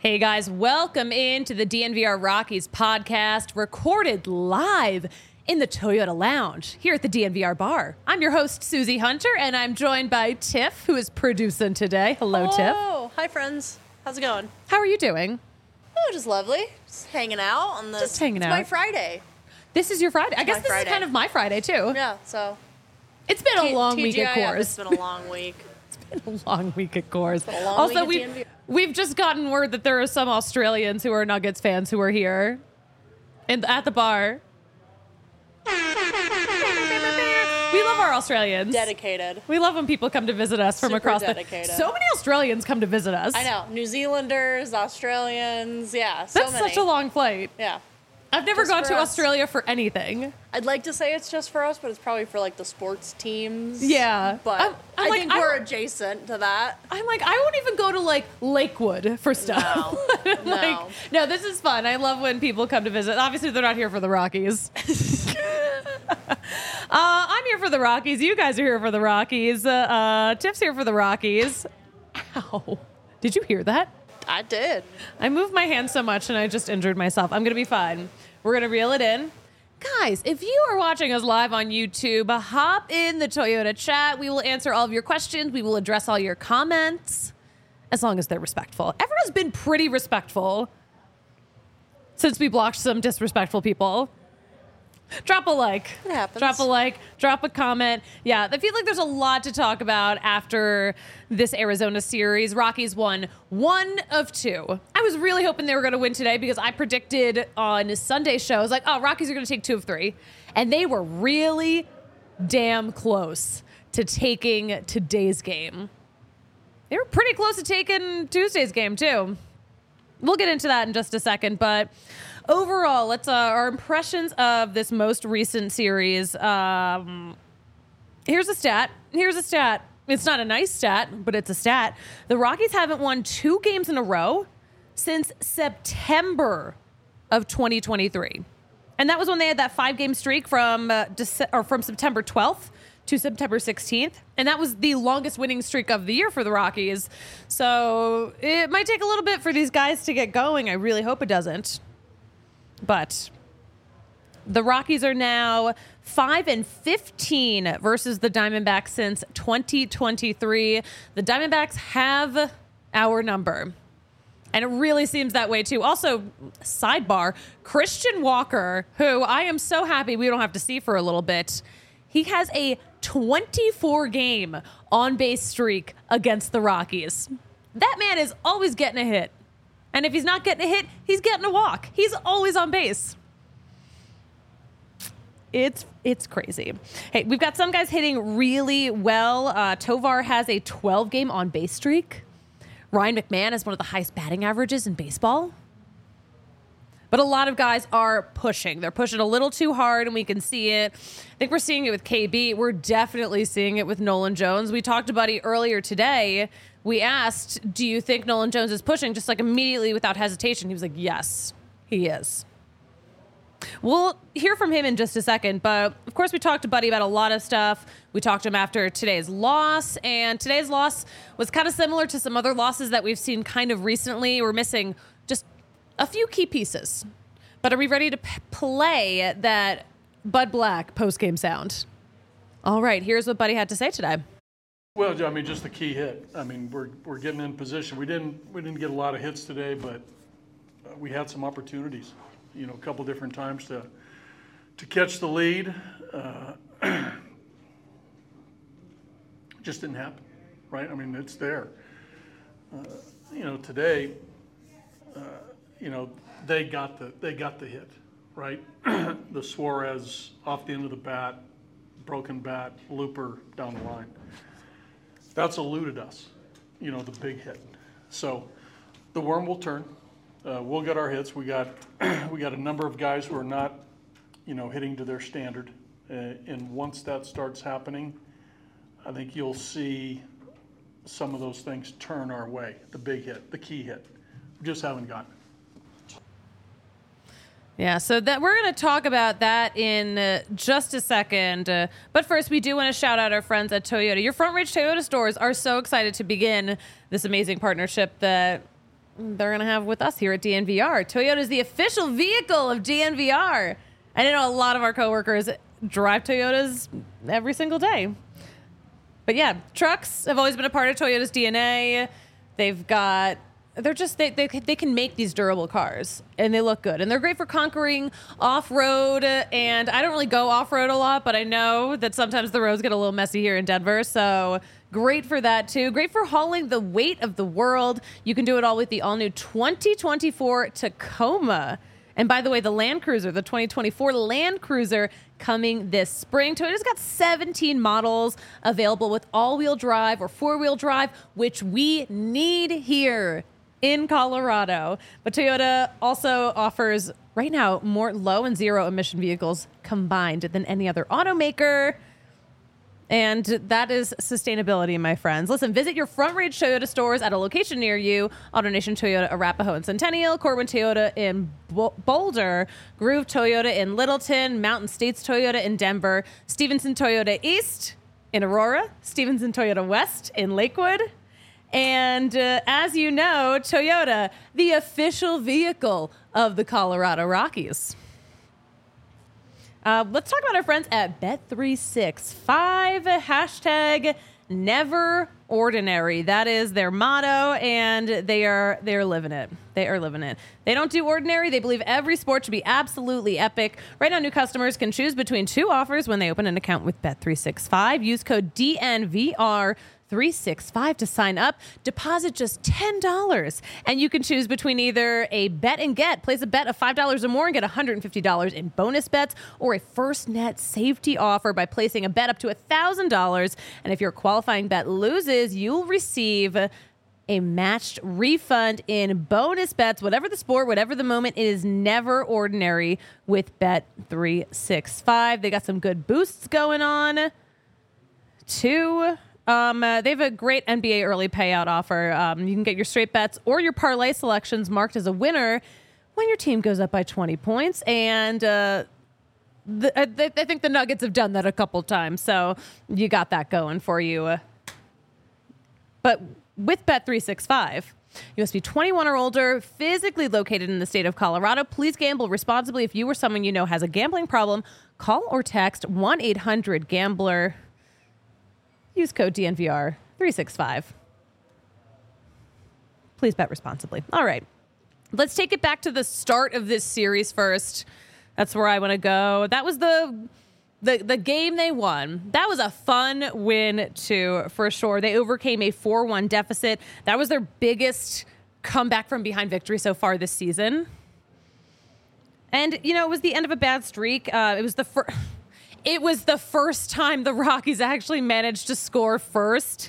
Hey guys, welcome into the DNVR Rockies podcast, recorded live in the Toyota Lounge here at the DNVR bar. I'm your host, Susie Hunter, and I'm joined by Tiff, who is producing today. Hello, Tiff. Oh, hi friends. How's it going? How are you doing? Oh, just lovely. Just hanging out on this. Just hanging it's out. my Friday. This is your Friday. I guess this Friday. is kind of my Friday, too. Yeah, so. It's been a long week at TGIF, Coors. It's been a long week. It's been a long week at Coors. been a long Also, week at DNVR. we've just gotten word that there are some Australians who are Nuggets fans who are here at the bar. We love our Australians. Dedicated. We love when people come to visit us from Super across dedicated. So many Australians come to visit us. I know. New Zealanders, Australians, yeah, so That's many. such a long flight. Yeah. I've never Just gone for to us. Australia for anything. I'd like to say it's just for us, but it's probably for like the sports teams. Yeah. But I'm I like, think we're adjacent to that. I'm like, I won't even go to like Lakewood for stuff. No. I'm like, no, this is fun. I love when people come to visit. Obviously, they're not here for the Rockies. I'm here for the Rockies. You guys are here for the Rockies. Tiff's here for the Rockies. Ow. Did you hear that? I did. I moved my hand so much and I just injured myself. I'm going to be fine. We're going to reel it in. Guys, if you are watching us live on YouTube, hop in the Toyota chat. We will answer all of your questions. We will address all your comments, as long as they're respectful. Everyone's been pretty respectful since we blocked some disrespectful people. Drop a like. It happens. Drop a like. Drop a comment. Yeah, I feel like there's a lot to talk about after this Arizona series. Rockies won 1 of 2. I was really hoping they were going to win today because I predicted on Sunday's show, I was like, oh, Rockies are going to take 2 of 3. And they were really damn close to taking today's game. They were pretty close to taking Tuesday's game, too. We'll get into that in just a second, but overall, let's our impressions of this most recent series. Here's a stat. It's not a nice stat, but it's a stat. The Rockies haven't won 2 games in a row since September of 2023. And that was when they had that 5-game streak from September 12th to September 16th. And that was the longest winning streak of the year for the Rockies. So it might take a little bit for these guys to get going. I really hope it doesn't. But the Rockies are now 5-15 versus the Diamondbacks since 2023. The Diamondbacks have our number. And it really seems that way, too. Also, sidebar, Christian Walker, who I am so happy we don't have to see for a little bit, he has a 24-game on-base streak against the Rockies. That man is always getting a hit. And if he's not getting a hit, he's getting a walk. He's always on base. It's crazy. Hey, we've got some guys hitting really well. Tovar has a 12-game on-base streak. Ryan McMahon has one of the highest batting averages in baseball. But a lot of guys are pushing. They're pushing a little too hard, and we can see it. I think we're seeing it with KB. We're definitely seeing it with Nolan Jones. We talked to Buddy earlier today. We asked, do you think Nolan Jones is pushing? Just like immediately without hesitation. He was like, yes, he is. We'll hear from him in just a second. But, of course, we talked to Buddy about a lot of stuff. We talked to him after today's loss. And today's loss was kind of similar to some other losses that we've seen kind of recently. We're missing just a few key pieces. But are we ready to play that Bud Black post-game sound? All right, here's what Buddy had to say today. Well, I mean, just the key hit. I mean, we're getting in position. We didn't get a lot of hits today, but we had some opportunities. You know, a couple different times to catch the lead. Just didn't happen, right? I mean, it's there. You know, today. You know, they got the hit, right? The Suarez off the end of the bat, broken bat, looper down the line. That's eluded us, you know, the big hit. So the worm will turn. We'll get our hits. We got a number of guys who are not, you know, hitting to their standard. And once that starts happening, I think you'll see some of those things turn our way. The big hit, the key hit. We just haven't gotten it. Yeah, so that we're going to talk about that in just a second. But first, we do want to shout out our friends at Toyota. Your Front Ridge Toyota stores are so excited to begin this amazing partnership that they're going to have with us here at DNVR. Toyota is the official vehicle of DNVR. I know a lot of our coworkers drive Toyotas every single day. But yeah, trucks have always been a part of Toyota's DNA. They can make these durable cars, and they look good, and they're great for conquering off-road. And I don't really go off-road a lot, but I know that sometimes the roads get a little messy here in Denver, so great for that too. Great for hauling the weight of the world. You can do it all with the all-new 2024 Tacoma. And by the way, the Land Cruiser, the 2024 Land Cruiser, coming this spring. Toyota's got 17 models available with all-wheel drive or four-wheel drive, which we need here in Colorado. But Toyota also offers right now more low and zero emission vehicles combined than any other automaker. And that is sustainability, my friends. Listen, visit your Front Range Toyota stores at a location near you. AutoNation Toyota, Arapahoe and Centennial, Corwin Toyota in Boulder, Groove Toyota in Littleton, Mountain States Toyota in Denver, Stevenson Toyota East in Aurora, Stevenson Toyota West in Lakewood. And as you know, Toyota, the official vehicle of the Colorado Rockies. Let's talk about our friends at Bet365. Hashtag never ordinary. That is their motto, and they are living it. They are living it. They don't do ordinary. They believe every sport should be absolutely epic. Right now, new customers can choose between two offers when they open an account with Bet365. Use code DNVR365 to sign up. Deposit just $10, and you can choose between either a bet and get, place a bet of $5 or more and get $150 in bonus bets, or a first net safety offer by placing a bet up to $1,000. And if your qualifying bet loses, you'll receive a matched refund in bonus bets. Whatever the sport, whatever the moment, it is never ordinary with Bet365. They got some good boosts going on too. They have a great NBA early payout offer. You can get your straight bets or your parlay selections marked as a winner when your team goes up by 20 points. And I think the Nuggets have done that a couple times, so you got that going for you. But with Bet365, you must be 21 or older, physically located in the state of Colorado. Please gamble responsibly. If you or someone you know has a gambling problem, call or text 1-800-GAMBLER. Use code DNVR365. Please bet responsibly. All right. Let's take it back to the start of this series first. That's where I want to go. That was the game they won. That was a fun win, too, for sure. They overcame a 4-1 deficit. That was their biggest comeback from behind victory so far this season. And, you know, it was the end of a bad streak. It was the first time the Rockies actually managed to score first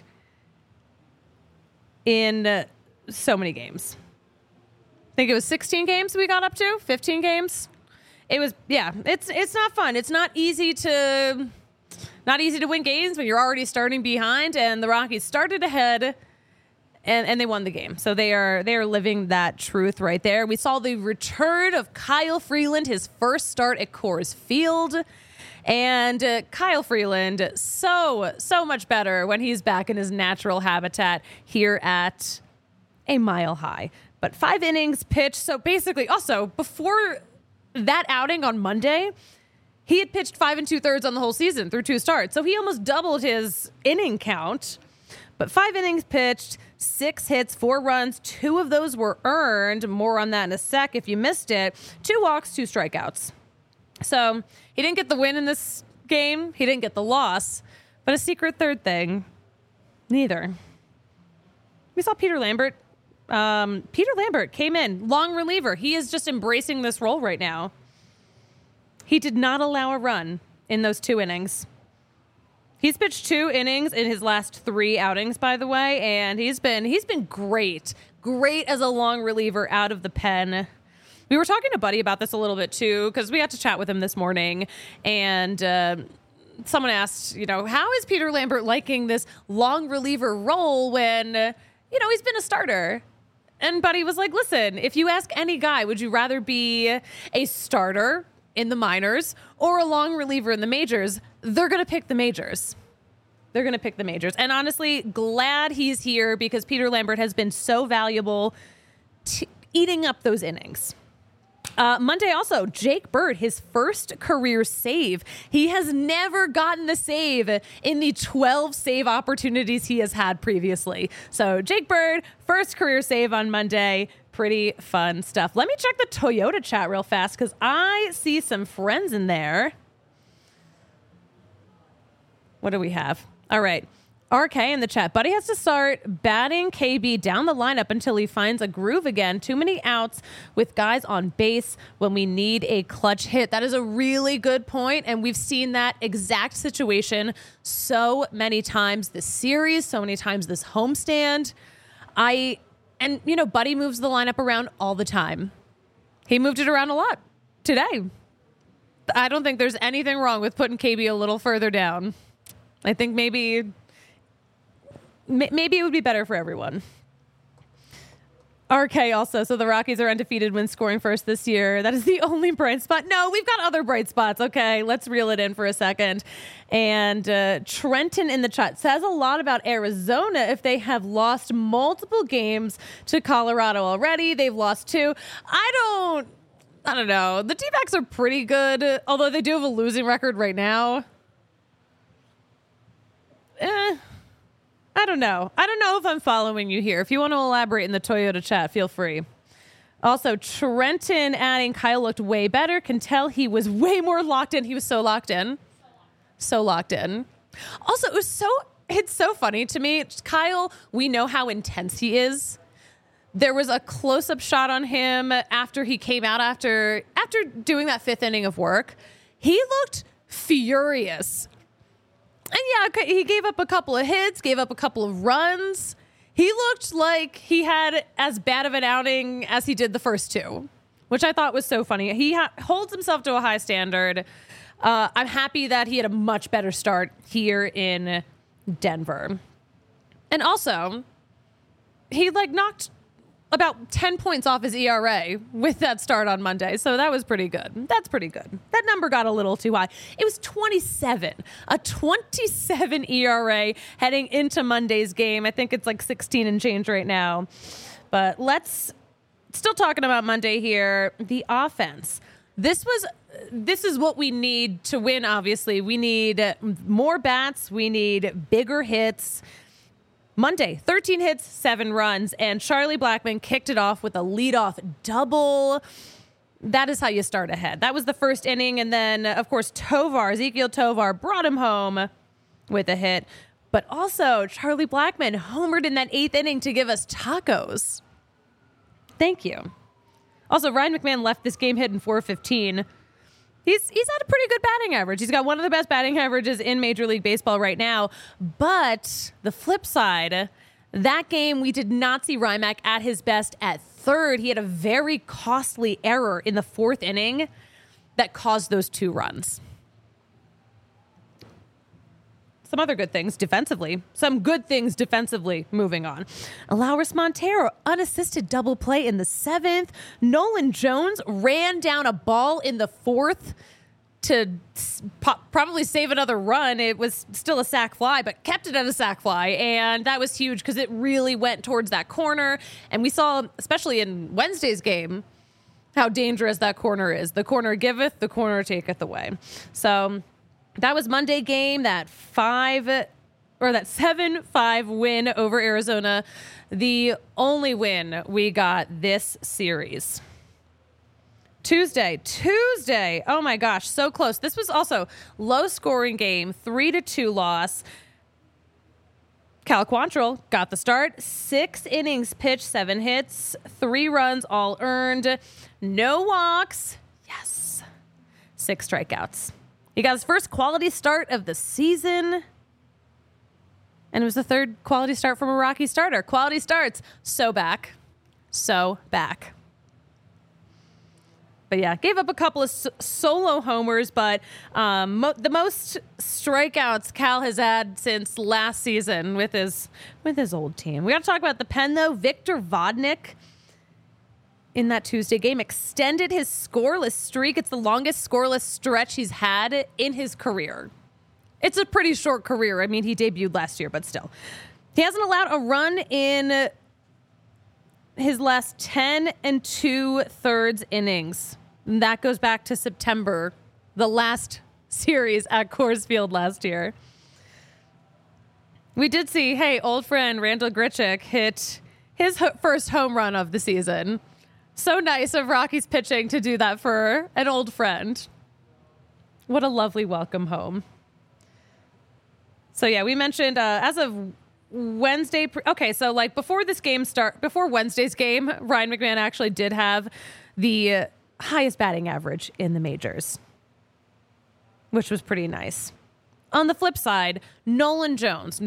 in so many games. I think it was 16 games we got up to, 15 games. It was, yeah, it's not fun. It's not easy to win games when you're already starting behind, and the Rockies started ahead and they won the game. So they are living that truth right there. We saw the return of Kyle Freeland, his first start at Coors Field. And Kyle Freeland, so much better when he's back in his natural habitat here at a Mile High. But 5 innings pitched. So basically, also, before that outing on Monday, he had pitched 5 2/3 on the whole season through 2 starts. So he almost doubled his inning count. But 5 innings pitched, 6 hits, 4 runs. 2 of those were earned. More on that in a sec if you missed it. 2 walks, 2 strikeouts. So he didn't get the win in this game. He didn't get the loss. But a secret third thing, neither. We saw Peter Lambert. Peter Lambert came in, long reliever. He is just embracing this role right now. He did not allow a run in those 2 innings. He's pitched 2 innings in his last 3 outings, by the way, and he's been great as a long reliever out of the pen. We were talking to Buddy about this a little bit too, because we got to chat with him this morning, and someone asked, you know, how is Peter Lambert liking this long reliever role when, you know, he's been a starter? And Buddy was like, listen, if you ask any guy, would you rather be a starter in the minors or a long reliever in the majors? They're going to pick the majors. They're going to pick the majors. And honestly, glad he's here because Peter Lambert has been so valuable eating up those innings. Monday also, Jake Bird, his first career save. He has never gotten the save in the 12 save opportunities he has had previously. So Jake Bird, first career save on Monday. Pretty fun stuff. Let me check the Toyota chat real fast because I see some friends in there. What do we have? All right. RK in the chat. Buddy has to start batting KB down the lineup until he finds a groove again. Too many outs with guys on base when we need a clutch hit. That is a really good point, and we've seen that exact situation so many times this series, so many times this homestand. Buddy moves the lineup around all the time. He moved it around a lot today. I don't think there's anything wrong with putting KB a little further down. I think maybe it would be better for everyone. RK also, so the Rockies are undefeated when scoring first this year. That is the only bright spot. No, we've got other bright spots. Okay, let's reel it in for a second. And Trenton in the chat says a lot about Arizona if they have lost multiple games to Colorado already. They've lost 2. I don't know. The D-backs are pretty good, although they do have a losing record right now. I don't know. I don't know if I'm following you here. If you want to elaborate in the Toyota chat, feel free. Also, Trenton adding Kyle looked way better. Can tell he was way more locked in. He was so locked in. So locked in. Also, it's so funny to me. Kyle, we know how intense he is. There was a close-up shot on him after he came out after doing that 5th inning of work. He looked furious. And yeah, he gave up a couple of hits, gave up a couple of runs. He looked like he had as bad of an outing as he did the first 2, which I thought was so funny. He holds himself to a high standard. I'm happy that he had a much better start here in Denver. And also, he knocked about 10 points off his ERA with that start on Monday. So that was pretty good. That's pretty good. That number got a little too high. It was 27, a 27 ERA heading into Monday's game. I think it's 16 and change right now. But still talking about Monday here, the offense. This is what we need to win, obviously. We need more bats. We need bigger hits. Monday, 13 hits, 7 runs, and Charlie Blackmon kicked it off with a leadoff double. That is how you start ahead. That was the first inning, and then, of course, Ezekiel Tovar brought him home with a hit. But also, Charlie Blackmon homered in that 8th inning to give us tacos. Thank you. Also, Ryan McMahon left this game hitting .415. He's had a pretty good batting average. He's got one of the best batting averages in Major League Baseball right now. But the flip side, that game, we did not see Rymack at his best at third. He had a very costly error in the 4th inning that caused those 2 runs. Some other good things defensively. Moving on. Alauris Montero, unassisted double play in the 7th. Nolan Jones ran down a ball in the 4th to probably save another run. It was still a sac fly, but kept it at a sac fly. And that was huge because it really went towards that corner. And we saw, especially in Wednesday's game, how dangerous that corner is. The corner giveth, the corner taketh away. So that was Monday game, that 7-5 win over Arizona. The only win we got this series. Tuesday. Oh my gosh, so close. This was also low scoring game, 3-2 loss. Cal Quantrill got the start. 6 innings pitched, 7 hits, 3 runs, all earned. No walks. Yes. 6 strikeouts. He got his first quality start of the season. And it was the 3rd quality start from a Rocky starter. Quality starts. So back. But yeah, gave up a couple of solo homers, but the most strikeouts Cal has had since last season with his old team. We got to talk about the pen, though. Victor Vodnik in that Tuesday game extended his scoreless streak. It's the longest scoreless stretch he's had in his career. It's a pretty short career. I mean, he debuted last year, but still. He hasn't allowed a run in his last 10 2/3 innings. And that goes back to September, the last series at Coors Field last year. We did see, hey, old friend Randall Grichuk hit his first home run of the season. So nice of Rockies pitching to do that for an old friend. What a lovely welcome home. So yeah, we mentioned as of Wednesday. Okay, so like before Wednesday's game, Ryan McMahon actually did have the highest batting average in the majors, which was pretty nice. On the flip side, Nolan Jones,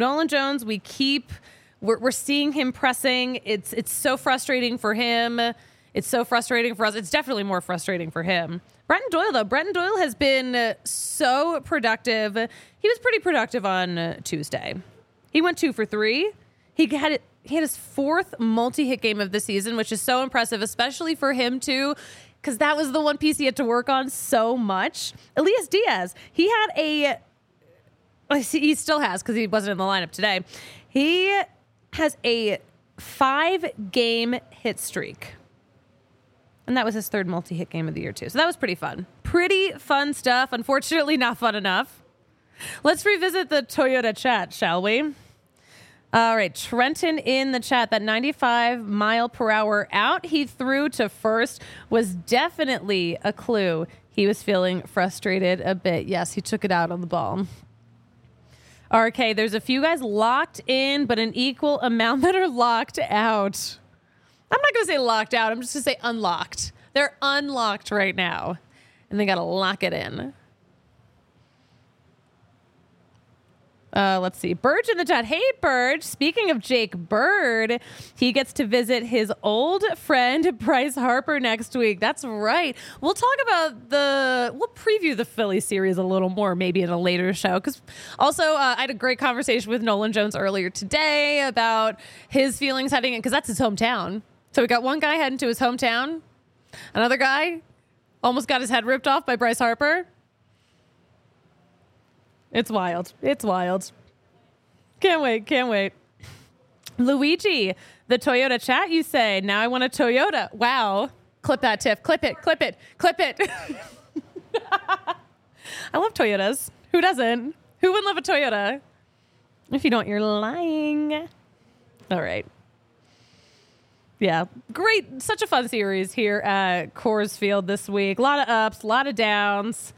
we're seeing him pressing. It's so frustrating for him. It's so frustrating for us. It's definitely more frustrating for him. Brenton Doyle has been so productive. He was pretty productive on Tuesday. He went 2 for 3. He had his 4th multi-hit game of the season, which is so impressive, especially for him too, because that was the one piece he had to work on so much. Elias Diaz, he still has, because he wasn't in the lineup today. He has a 5-game hit streak. And that was his 3rd multi-hit game of the year, too. So that was pretty fun. Pretty fun stuff. Unfortunately, not fun enough. Let's revisit the Toyota chat, shall we? All right. Trenton in the chat. That 95 mile per hour out he threw to first was definitely a clue. He was feeling frustrated a bit. Yes, he took it out on the ball. RK, there's a few guys locked in, but an equal amount that are locked out. I'm not going to say locked out. I'm just going to say unlocked. They're unlocked right now, and they got to lock it in. Let's see. Burge in the chat. Hey, Burge. Speaking of Jake Bird, he gets to visit his old friend Bryce Harper next week. That's right. We'll talk about we'll preview the Philly series a little more maybe in a later show. Because also, I had a great conversation with Nolan Jones earlier today about his feelings heading in, because that's his hometown. So we got one guy heading to his hometown. Another guy almost got his head ripped off by Bryce Harper. It's wild. It's wild. Can't wait. Luigi, the Toyota chat, you say. Now I want a Toyota. Wow. Clip that, Tiff. Clip it. I love Toyotas. Who doesn't? Who wouldn't love a Toyota? If you don't, you're lying. All right. Yeah, great. Such a fun series here at Coors Field this week. A lot of ups, a lot of downs.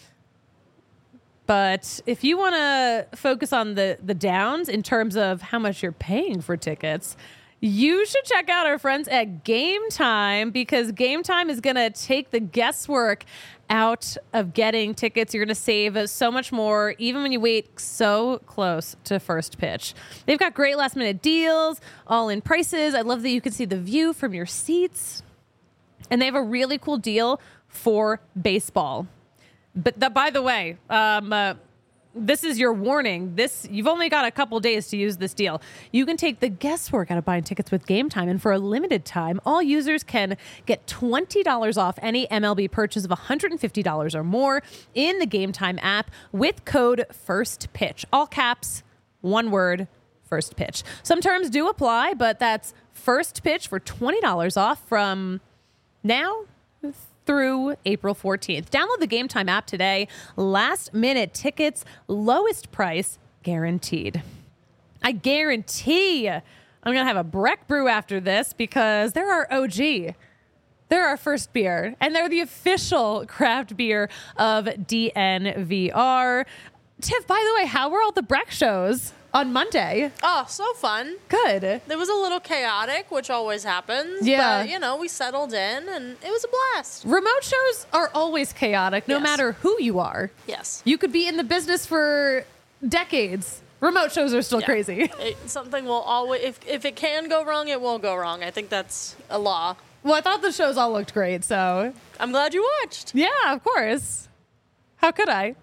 But if you want to focus on the downs in terms of how much you're paying for tickets, you should check out our friends at Game Time, because Game Time is going to take the guesswork out of getting tickets. You're going to save so much more, even when you wait so close to first pitch. They've got great last minute deals, all in prices. I love that you can see the view from your seats. And they have a really cool deal for baseball. But by the way, this is your warning. You've only got a couple days to use this deal. You can take the guesswork out of buying tickets with Game Time, and for a limited time, all users can get $20 off any MLB purchase of $150 or more in the Game Time app with code FIRSTPITCH. All caps, one word, first pitch. Some terms do apply, but that's first pitch for $20 off from now through April 14th. Download the Game Time app today. Last minute tickets, lowest price guaranteed. I guarantee I'm going to have a Breck Brew after this, because they're our OG. They're our first beer, and they're the official craft beer of DNVR. Tiff, by the way, how were all the Breck shows on Monday? Oh, so fun. Good. It was a little chaotic, which always happens. Yeah. But, we settled in, and it was a blast. Remote shows are always chaotic, no matter who you are. Yes. You could be in the business for decades. Remote shows are still crazy. Something will always, if it can go wrong, it will go wrong. I think that's a law. Well, I thought the shows all looked great, so. I'm glad you watched. Yeah, of course. How could I?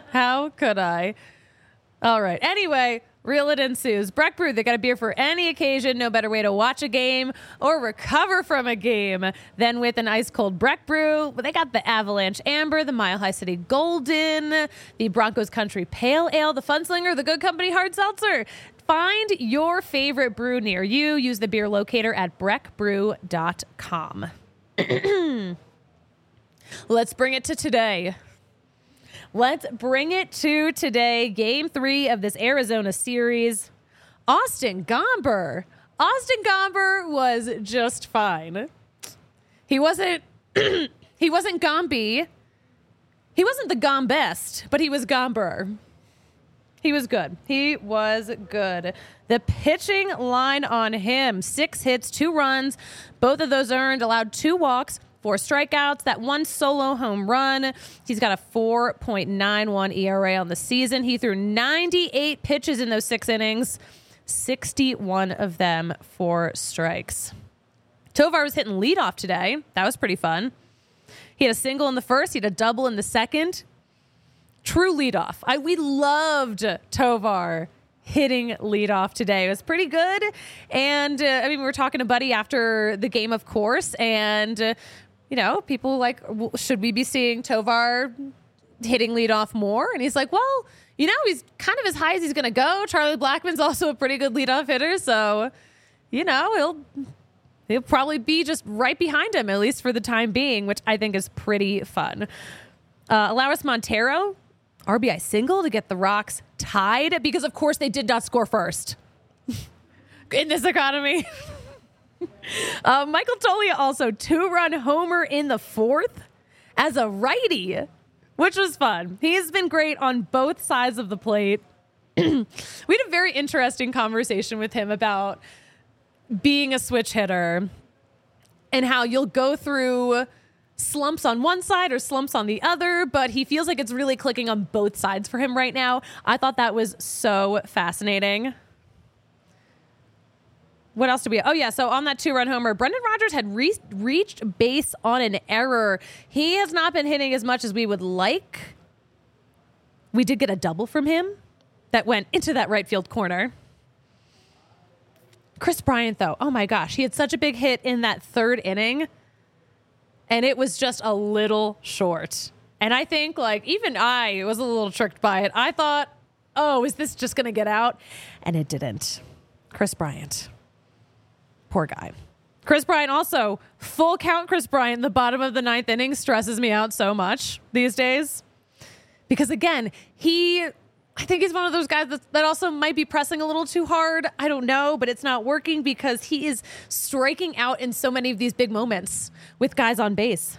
All right. Anyway, Reel It ensues. Breck Brew, they got a beer for any occasion. No better way to watch a game or recover from a game than with an ice-cold Breck Brew. But they got the Avalanche Amber, the Mile High City Golden, the Broncos Country Pale Ale, the Funslinger, the Good Company Hard Seltzer. Find your favorite brew near you. Use the beer locator at breckbrew.com. Let's bring it to today. Game 3 of this Arizona series. Austin Gomber. Austin Gomber was just fine. He wasn't Gomby. He wasn't the Gombest, but he was Gomber. He was good. The pitching line on him, 6 hits, 2 runs, both of those earned, allowed 2 walks, 4 strikeouts, that 1 solo home run. He's got a 4.91 ERA on the season. He threw 98 pitches in those 6 innings, 61 of them for strikes. Tovar was hitting leadoff today. That was pretty fun. He had a single in the first. He had a double in the second. True leadoff. We loved Tovar hitting leadoff today. It was pretty good. And, we were talking to Buddy after the game, of course. And, people like, should we be seeing Tovar hitting leadoff more? And he's like, well, he's kind of as high as he's going to go. Charlie Blackmon's also a pretty good leadoff hitter. So, he'll probably be just right behind him, at least for the time being, which I think is pretty fun. Alaris Montero, RBI single to get the Rocks tied because, of course, they did not score first in this economy. Michael Toglia also 2-run homer in the 4th as a righty, which was fun. He's been great on both sides of the plate. We had a very interesting conversation with him about being a switch hitter and how you'll go through slumps on one side or slumps on the other, but he feels like it's really clicking on both sides for him right now. I thought that was so fascinating. What else did we? Oh, yeah. So on that 2-run homer, Brendan Rodgers had reached base on an error. He has not been hitting as much as we would like. We did get a double from him that went into that right field corner. Chris Bryant, though, oh my gosh, he had such a big hit in that 3rd inning, and it was just a little short. And I think, even I was a little tricked by it. I thought, oh, is this just going to get out? And it didn't. Chris Bryant. Poor guy. Chris Bryant also, full count Chris Bryant, the bottom of the 9th inning stresses me out so much these days. Because, again, I think he's one of those guys that also might be pressing a little too hard. I don't know, but it's not working because he is striking out in so many of these big moments with guys on base.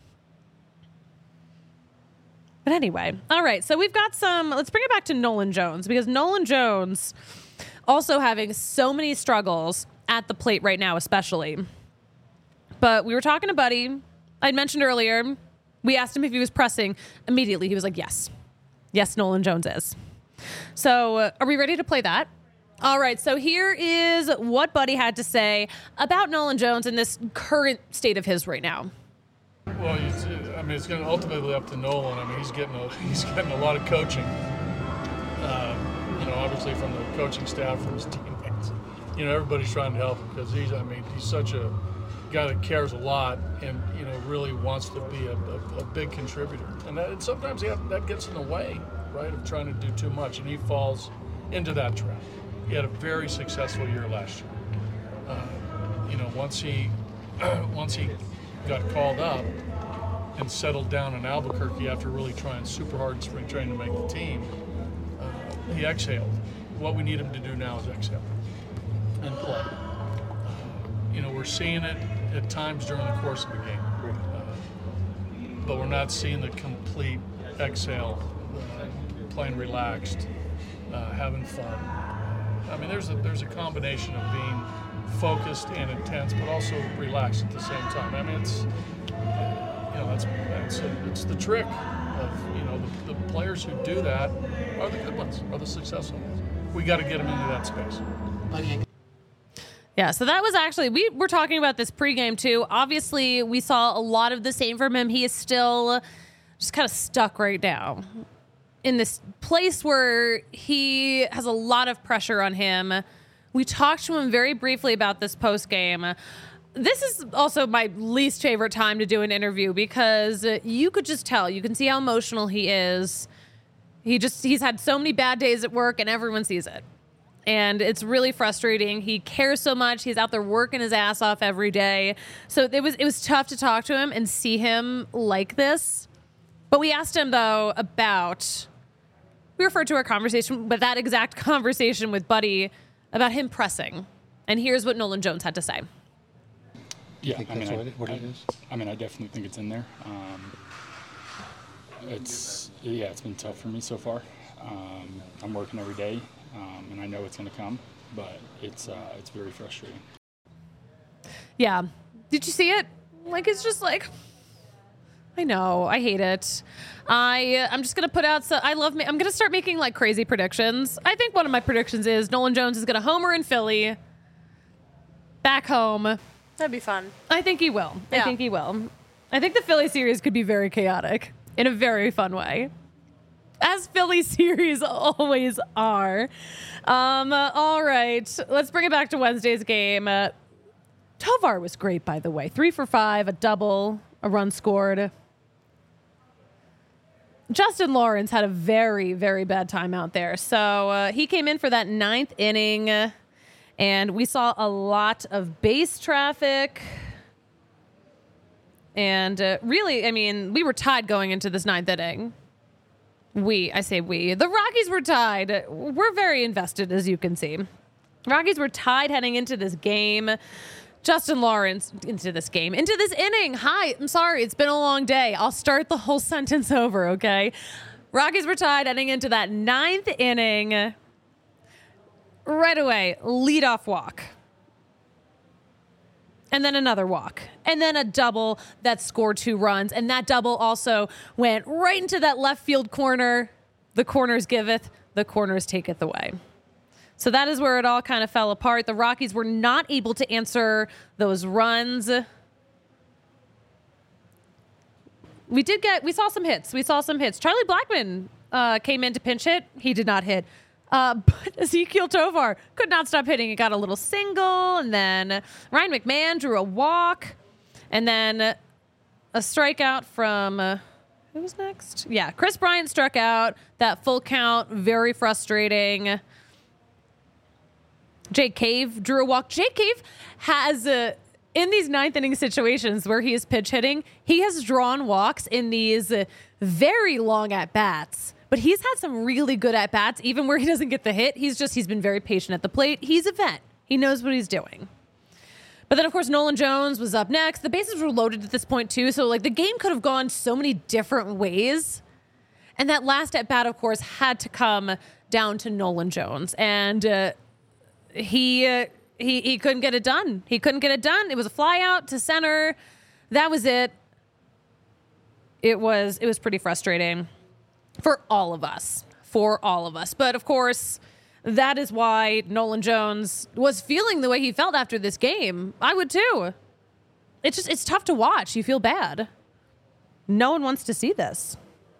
But anyway, all right. So we've got let's bring it back to Nolan Jones because Nolan Jones also having so many struggles at the plate right now, especially. But we were talking to Buddy. I'd mentioned earlier, we asked him if he was pressing. Immediately, he was like, yes. Yes, Nolan Jones is. So are we ready to play that? All right. So here is what Buddy had to say about Nolan Jones in this current state of his right now. Well, it's going to ultimately up to Nolan. he's getting a lot of coaching. Obviously from the coaching staff, from his teammates. Everybody's trying to help him because he's such a guy that cares a lot and really wants to be a big contributor. And sometimes that gets in the way, right, of trying to do too much, and he falls into that trap. He had a very successful year last year. Once he got called up and settled down in Albuquerque after really trying super hard in spring training to make the team, he exhaled. What we need him to do now is exhale and play. We're seeing it at times during the course of the game, but we're not seeing the complete exhale, playing relaxed, having fun. There's a combination of being focused and intense, but also relaxed at the same time. It's the trick of the players who do that are the good ones, are the successful ones. We got to get them into that space. Yeah, so that was actually, we were talking about this pregame too. Obviously, we saw a lot of the same from him. He is still just kind of stuck right now in this place where he has a lot of pressure on him. We talked to him very briefly about this postgame. This is also my least favorite time to do an interview because you could just tell. You can see how emotional he is. He's had so many bad days at work and everyone sees it. And it's really frustrating. He cares so much. He's out there working his ass off every day. So it was tough to talk to him and see him like this. But we asked him, though, we referred to our conversation, but that exact conversation with Buddy about him pressing. And here's what Nolan Jones had to say. Yeah, I definitely think it's in there. It's been tough for me so far. I'm working every day, and I know it's going to come, but it's very frustrating. Yeah. Did you see it? Like, it's just like, I know, I hate it. I'm just going to put out, I'm going to start making like crazy predictions. I think one of my predictions is Nolan Jones is going to homer in Philly, back home. That'd be fun. I think he will. Yeah. I think he will. I think the Philly series could be very chaotic in a very fun way, as Philly series always are. All right, let's bring it back to Wednesday's game. Tovar was great, by the way. 3 for 5, a double, a run scored. Justin Lawrence had a very, very bad time out there. So he came in for that 9th inning, and we saw a lot of base traffic. And really, I mean, we were tied going into this 9th inning. I say we. The Rockies were tied. We're very invested, as you can see. Rockies were tied heading into this game. Justin Lawrence, into this inning. Hi, I'm sorry, it's been a long day. I'll start the whole sentence over, okay? Rockies were tied heading into that 9th inning. Right away, leadoff walk. And then another walk. And then a double that scored 2 runs. And that double also went right into that left field corner. The corners giveth, the corners taketh away. So that is where it all kind of fell apart. The Rockies were not able to answer those runs. We saw some hits. Charlie Blackmon came in to pinch hit. He did not hit. But Ezequiel Tovar could not stop hitting. He got a little single, and then Ryan McMahon drew a walk, and then a strikeout from who was next? Yeah, Chris Bryant struck out. That full count, very frustrating. Jake Cave drew a walk. Jake Cave has in these 9th inning situations where he is pitch hitting, he has drawn walks in these very long at bats. But he's had some really good at-bats, even where he doesn't get the hit. He's been very patient at the plate. He's a vet. He knows what he's doing. But then, of course, Nolan Jones was up next. The bases were loaded at this point, too. So, like, the game could have gone so many different ways. And that last at-bat, of course, had to come down to Nolan Jones. And he couldn't get it done. It was a fly out to center. That was it. It was pretty frustrating. For all of us. But, of course, that is why Nolan Jones was feeling the way he felt after this game. I would, too. It's tough to watch. You feel bad. No one wants to see this.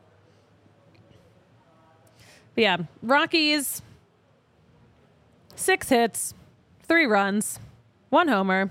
But, yeah, Rockies, 6 hits, 3 runs, 1 homer.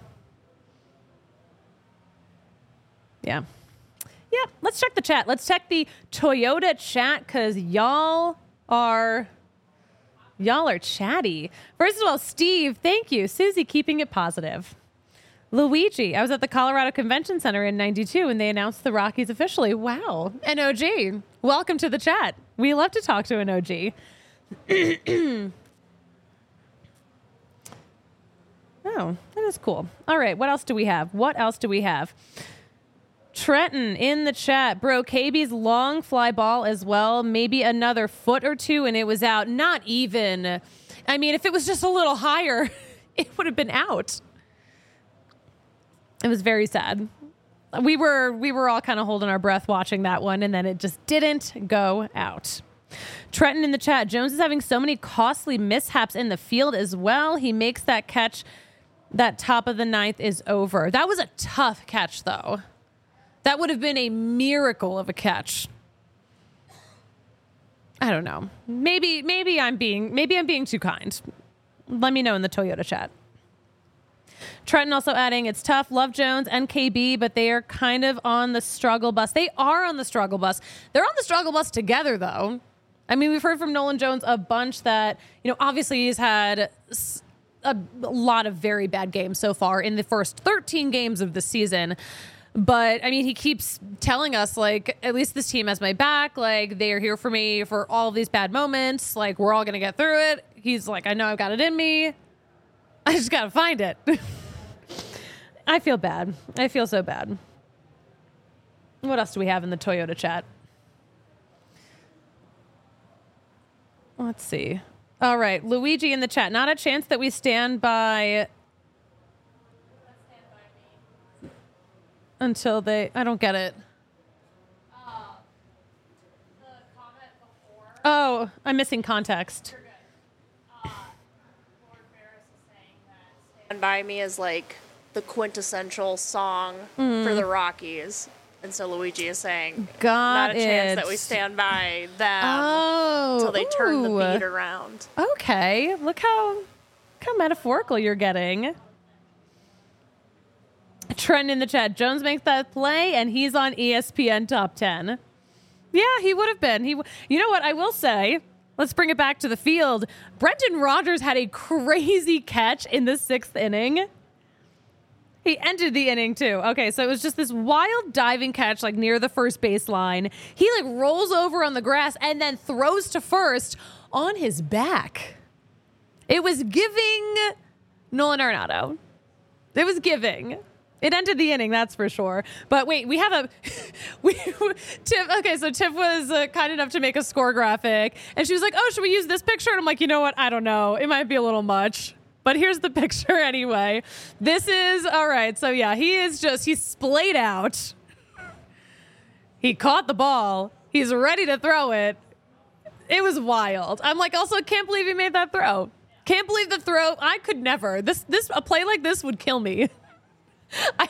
Yeah. Yeah, let's check the chat. Let's check the Toyota chat because y'all are chatty. First of all, Steve, thank you. Susie, keeping it positive. Luigi, I was at the Colorado Convention Center in '92 and they announced the Rockies officially. Wow. An OG, welcome to the chat. We love to talk to an OG. Oh, that is cool. All right, what else do we have? Trenton in the chat. Bro, KB's long fly ball as well. Maybe another foot or 2 and it was out. Not even. I mean, if it was just a little higher, it would have been out. It was very sad. We were all kind of holding our breath watching that one, and then it just didn't go out. Trenton in the chat. Jones is having so many costly mishaps in the field as well. He makes that catch. That top of the 9th is over. That was a tough catch, though. That would have been a miracle of a catch. I don't know. Maybe I'm being too kind. Let me know in the Toyota chat. Trenton also adding, it's tough. Love Jones and KB, but they are kind of on the struggle bus. They are on the struggle bus. They're on the struggle bus together, though. I mean, we've heard from Nolan Jones a bunch that, obviously he's had a lot of very bad games so far in the first 13 games of the season. But I mean, he keeps telling us, like, at least this team has my back. Like, they are here for me for all of these bad moments. Like, we're all going to get through it. He's like, I know I've got it in me. I just got to find it. I feel bad. I feel so bad. What else do we have in the Toyota chat? Let's see. All right. Luigi in the chat. Not a chance that we stand by until they... I don't get it. The comment before. Oh, I'm missing context. You're good. Lord Barris is saying that Stand By Me is like the quintessential song for the Rockies. And so Luigi is saying, Got not a chance it. that we stand by them Oh. until they turn the ooh. beat around. Okay. Look how metaphorical you're getting. Trent in the chat. Jones makes that play, and he's on ESPN Top 10. Yeah, he would have been. You know what? I will say, let's bring it back to the field. Brendan Rodgers had a crazy catch in the 6th inning. He ended the inning, too. Okay, so it was just this wild diving catch, like, near the first baseline. He, like, rolls over on the grass and then throws to first on his back. It was giving Nolan Arenado. It was giving. It ended the inning, that's for sure. But wait, we have Tiff. Okay, so Tiff was kind enough to make a score graphic, and she was like, "Oh, should we use this picture?" And I'm like, "You know what? I don't know. It might be a little much." But here's the picture anyway. This is all right. So yeah, he's splayed out. He caught the ball. He's ready to throw it. It was wild. I'm like, also can't believe he made that throw. Can't believe the throw. I could never. A play like this would kill me. I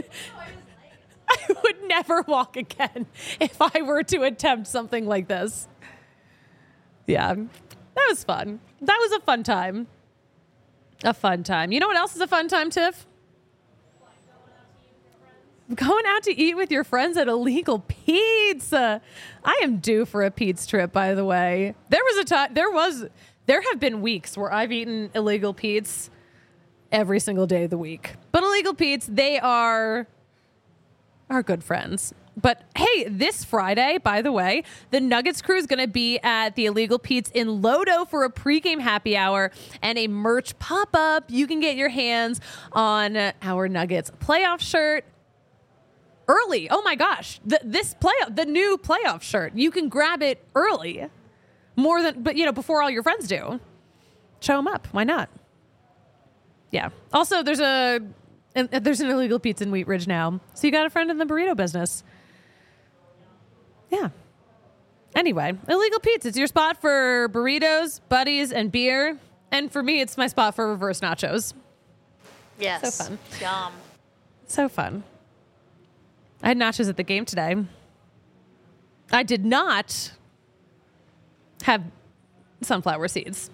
would never walk again if I were to attempt something like this. Yeah, that was fun. That was a fun time. A fun time. You know what else is a fun time, Tiff? Going out to eat with your friends at Illegal Pizza. I am due for a Pete's trip, by the way. There have been weeks where I've eaten Illegal Pete's every single day of the week. But Illegal Pete's, they are our good friends. But hey, this Friday, by the way, the Nuggets crew is going to be at the Illegal Pete's in Lodo for a pregame happy hour and a merch pop-up. You can get your hands on our Nuggets playoff shirt early. Oh my gosh. The new playoff shirt. You can grab it early. Before all your friends do. Show them up. Why not? Yeah. Also, there's an Illegal Pizza in Wheat Ridge now. So you got a friend in the burrito business. Yeah. Anyway, Illegal Pizza. It's your spot for burritos, buddies, and beer. And for me, it's my spot for reverse nachos. Yes. So fun. Yum. So fun. I had nachos at the game today. I did not have sunflower seeds.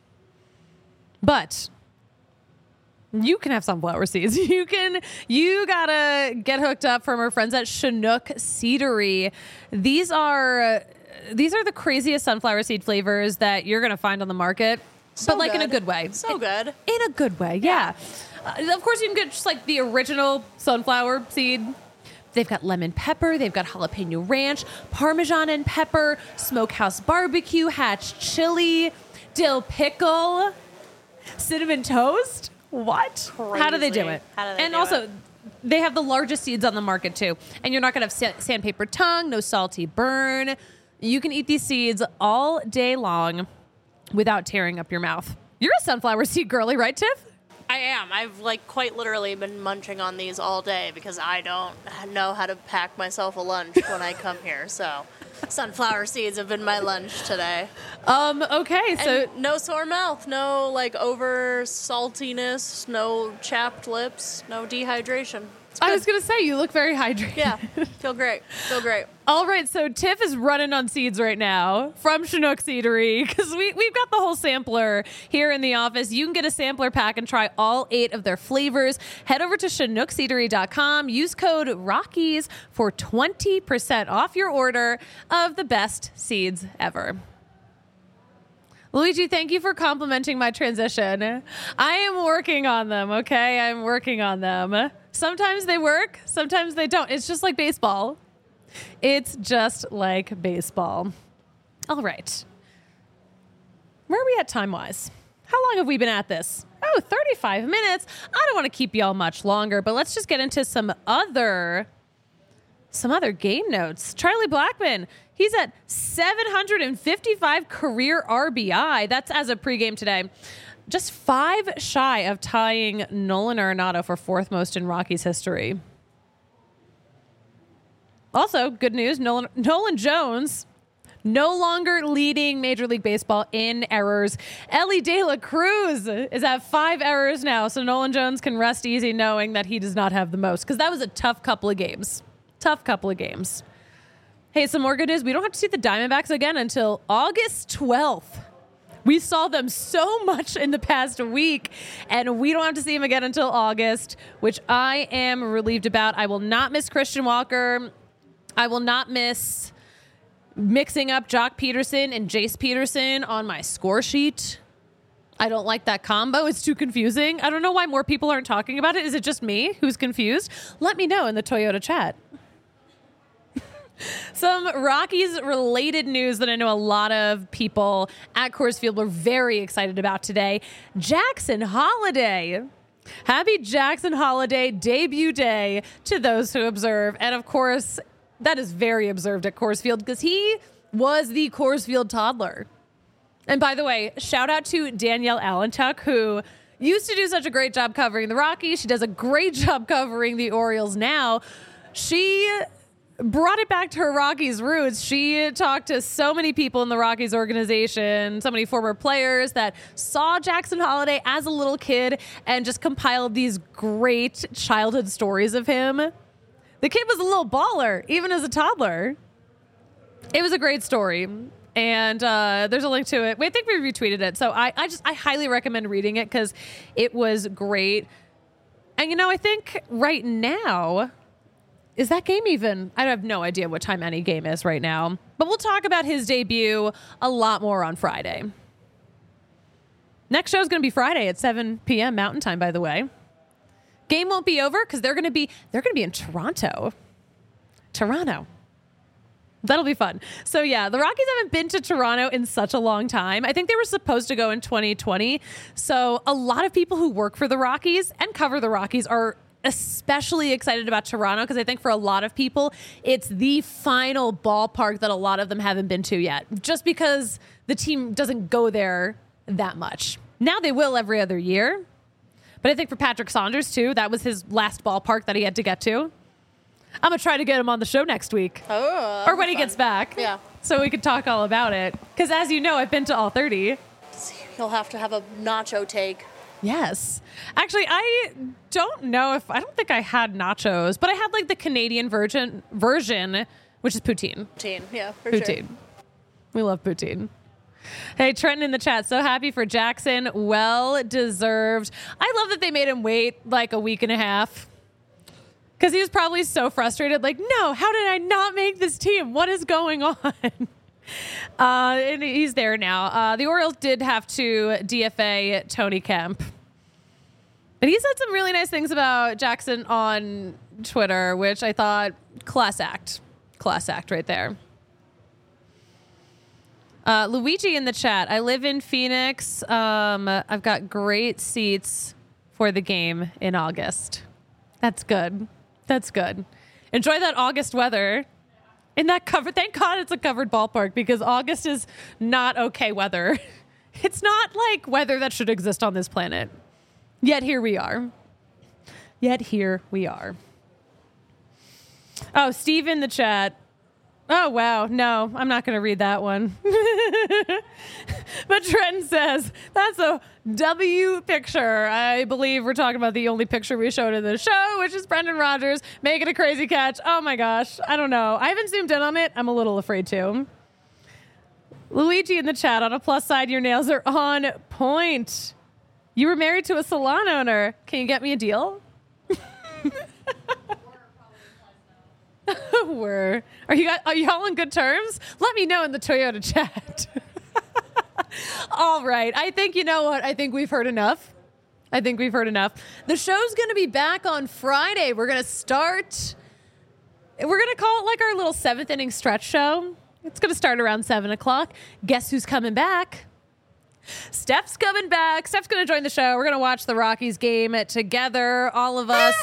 But you can have sunflower seeds. You gotta get hooked up from our friends at Chinook Seedery. These are the craziest sunflower seed flavors that you're gonna find on the market, but like in a good way. So good. In a good way, yeah. Of course, you can get just like the original sunflower seed. They've got lemon pepper, they've got jalapeno ranch, Parmesan and pepper, smokehouse barbecue, hatch chili, dill pickle, cinnamon toast. What? Crazy. How do they do it? They have the largest seeds on the market too. And you're not going to have sandpaper tongue, no salty burn. You can eat these seeds all day long without tearing up your mouth. You're a sunflower seed girly, right, Tiff? I am. I've quite literally been munching on these all day because I don't know how to pack myself a lunch when I come here. So sunflower seeds have been my lunch today. Okay, so And no sore mouth, no over saltiness, no chapped lips, no dehydration. I was going to say, you look very hydrated. Yeah, feel great. All right, so Tiff is running on seeds right now from Chinook Seedery because we've got the whole sampler here in the office. You can get a sampler pack and try all 8 of their flavors. Head over to ChinookSeedery.com. Use code ROCKIES for 20% off your order of the best seeds ever. Luigi, thank you for complimenting my transition. I am working on them, okay? I'm working on them. Sometimes they work, sometimes they don't. It's just like baseball. It's just like baseball. All right. Where are we at time-wise? How long have we been at this? Oh, 35 minutes. I don't want to keep y'all much longer, but let's just get into some other game notes. Charlie Blackmon, he's at 755 career RBI. That's as of pregame today. Just 5 shy of tying Nolan Arenado for 4th most in Rockies history. Also, good news, Nolan Jones no longer leading Major League Baseball in errors. Ellie De La Cruz is at 5 errors now, so Nolan Jones can rest easy knowing that he does not have the most, because that was a tough couple of games. Hey, some more good news. We don't have to see the Diamondbacks again until August 12th. We saw them so much in the past week, and we don't have to see them again until August, which I am relieved about. I will not miss Christian Walker. I will not miss mixing up Jock Peterson and Jace Peterson on my score sheet. I don't like that combo. It's too confusing. I don't know why more people aren't talking about it. Is it just me who's confused? Let me know in the Toyota chat. Some Rockies-related news that I know a lot of people at Coors Field were very excited about today. Jackson Holliday. Happy Jackson Holliday debut day to those who observe. And, of course, that is very observed at Coors Field because he was the Coors Field toddler. And, by the way, shout out to Danielle Allentuck, who used to do such a great job covering the Rockies. She does a great job covering the Orioles now. She brought it back to her Rockies roots. She talked to so many people in the Rockies organization, so many former players that saw Jackson Holliday as a little kid and just compiled these great childhood stories of him. The kid was a little baller, even as a toddler. It was a great story. And there's a link to it. I think we retweeted it. So I highly recommend reading it because it was great. And, I think right now, is that game even? I have no idea what time any game is right now. But we'll talk about his debut a lot more on Friday. Next show is going to be Friday at 7 p.m. Mountain Time, by the way. Game won't be over because they're going to be in Toronto. That'll be fun. So, yeah, the Rockies haven't been to Toronto in such a long time. I think they were supposed to go in 2020. So a lot of people who work for the Rockies and cover the Rockies are especially excited about Toronto because I think for a lot of people, it's the final ballpark that a lot of them haven't been to yet, just because the team doesn't go there that much. Now they will every other year. But I think for Patrick Saunders, too, that was his last ballpark that he had to get to. I'm going to try to get him on the show next week. Oh, or when he gets back. Yeah. So we could talk all about it. Because as you know, I've been to all 30. You'll have to have a nacho take. Yes. Actually, I don't think I had nachos, but I had like the Canadian version, which is poutine. Poutine, yeah, for Poutine. sure. We love poutine. Hey, Trenton in the chat. So happy for Jackson. Well deserved. I love that they made him wait like a week and a half. Because he was probably so frustrated. Like, no, how did I not make this team? What is going on? And he's there now. The Orioles did have to DFA Tony Kemp. But he said some really nice things about Jackson on Twitter, which I thought, class act. Class act right there. Luigi in the chat. I live in Phoenix. I've got great seats for the game in August. That's good. That's good. Enjoy that August weather. In that cover, thank God it's a covered ballpark because August is not okay weather. It's not like weather that should exist on this planet. Yet here we are. Oh, Steve in the chat. Oh, wow. No, I'm not going to read that one. But Trenton says, that's a W picture. I believe we're talking about the only picture we showed in the show, which is Brendan Rodgers making a crazy catch. Oh, my gosh. I don't know. I haven't zoomed in on it. I'm a little afraid to. Luigi in the chat, on a plus side, your nails are on point. You were married to a salon owner. Can you get me a deal? Are y'all on good terms? Let me know in the Toyota chat. All right. I think, you know what? I think we've heard enough. The show's going to be back on Friday. We're going to call it like our little 7th inning stretch show. It's going to start around 7 o'clock. Guess who's coming back? Steph's coming back. Steph's going to join the show. We're going to watch the Rockies game together, all of us.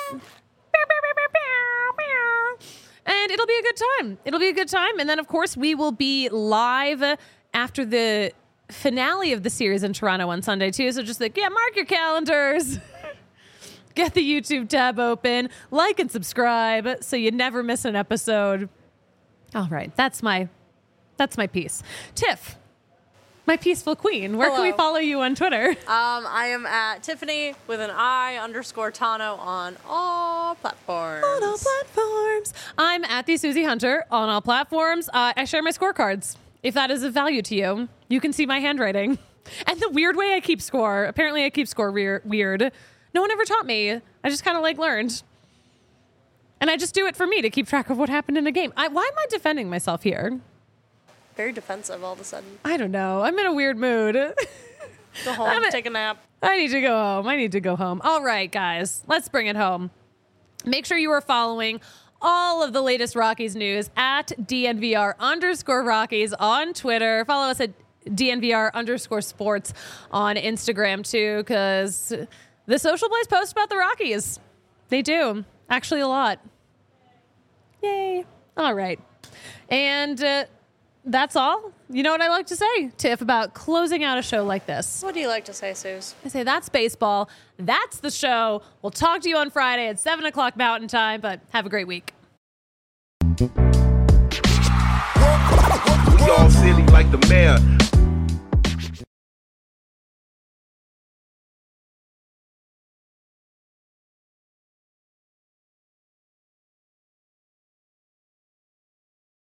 And it'll be a good time. And then, of course, we will be live after the finale of the series in Toronto on Sunday, too. So just mark your calendars. Get the YouTube tab open. Like and subscribe so you never miss an episode. All right. That's my piece. Tiff, my peaceful queen. Where can we follow you on Twitter? I am at Tiffany with an I_Tano on all platforms. I'm at the Susie Hunter on all platforms. I share my scorecards. If that is of value to you, you can see my handwriting and the weird way I keep score. Apparently, I keep score weird. No one ever taught me. I just kind of learned. And I just do it for me to keep track of what happened in a game. Why am I defending myself here? Very defensive all of a sudden. I don't know. I'm in a weird mood. Go home, take a nap. I need to go home. All right, guys, let's bring it home. Make sure you are following all of the latest Rockies news at DNVR_Rockies on Twitter. Follow us at DNVR_sports on Instagram too, because the Social Blaze posts about the Rockies. They do. Actually, a lot. Yay. All right. And that's all. You know what I like to say, Tiff, about closing out a show like this? What do you like to say, Suze? I say that's baseball. That's the show. We'll talk to you on Friday at 7 o'clock Mountain Time, but have a great week. We all silly like the mayor.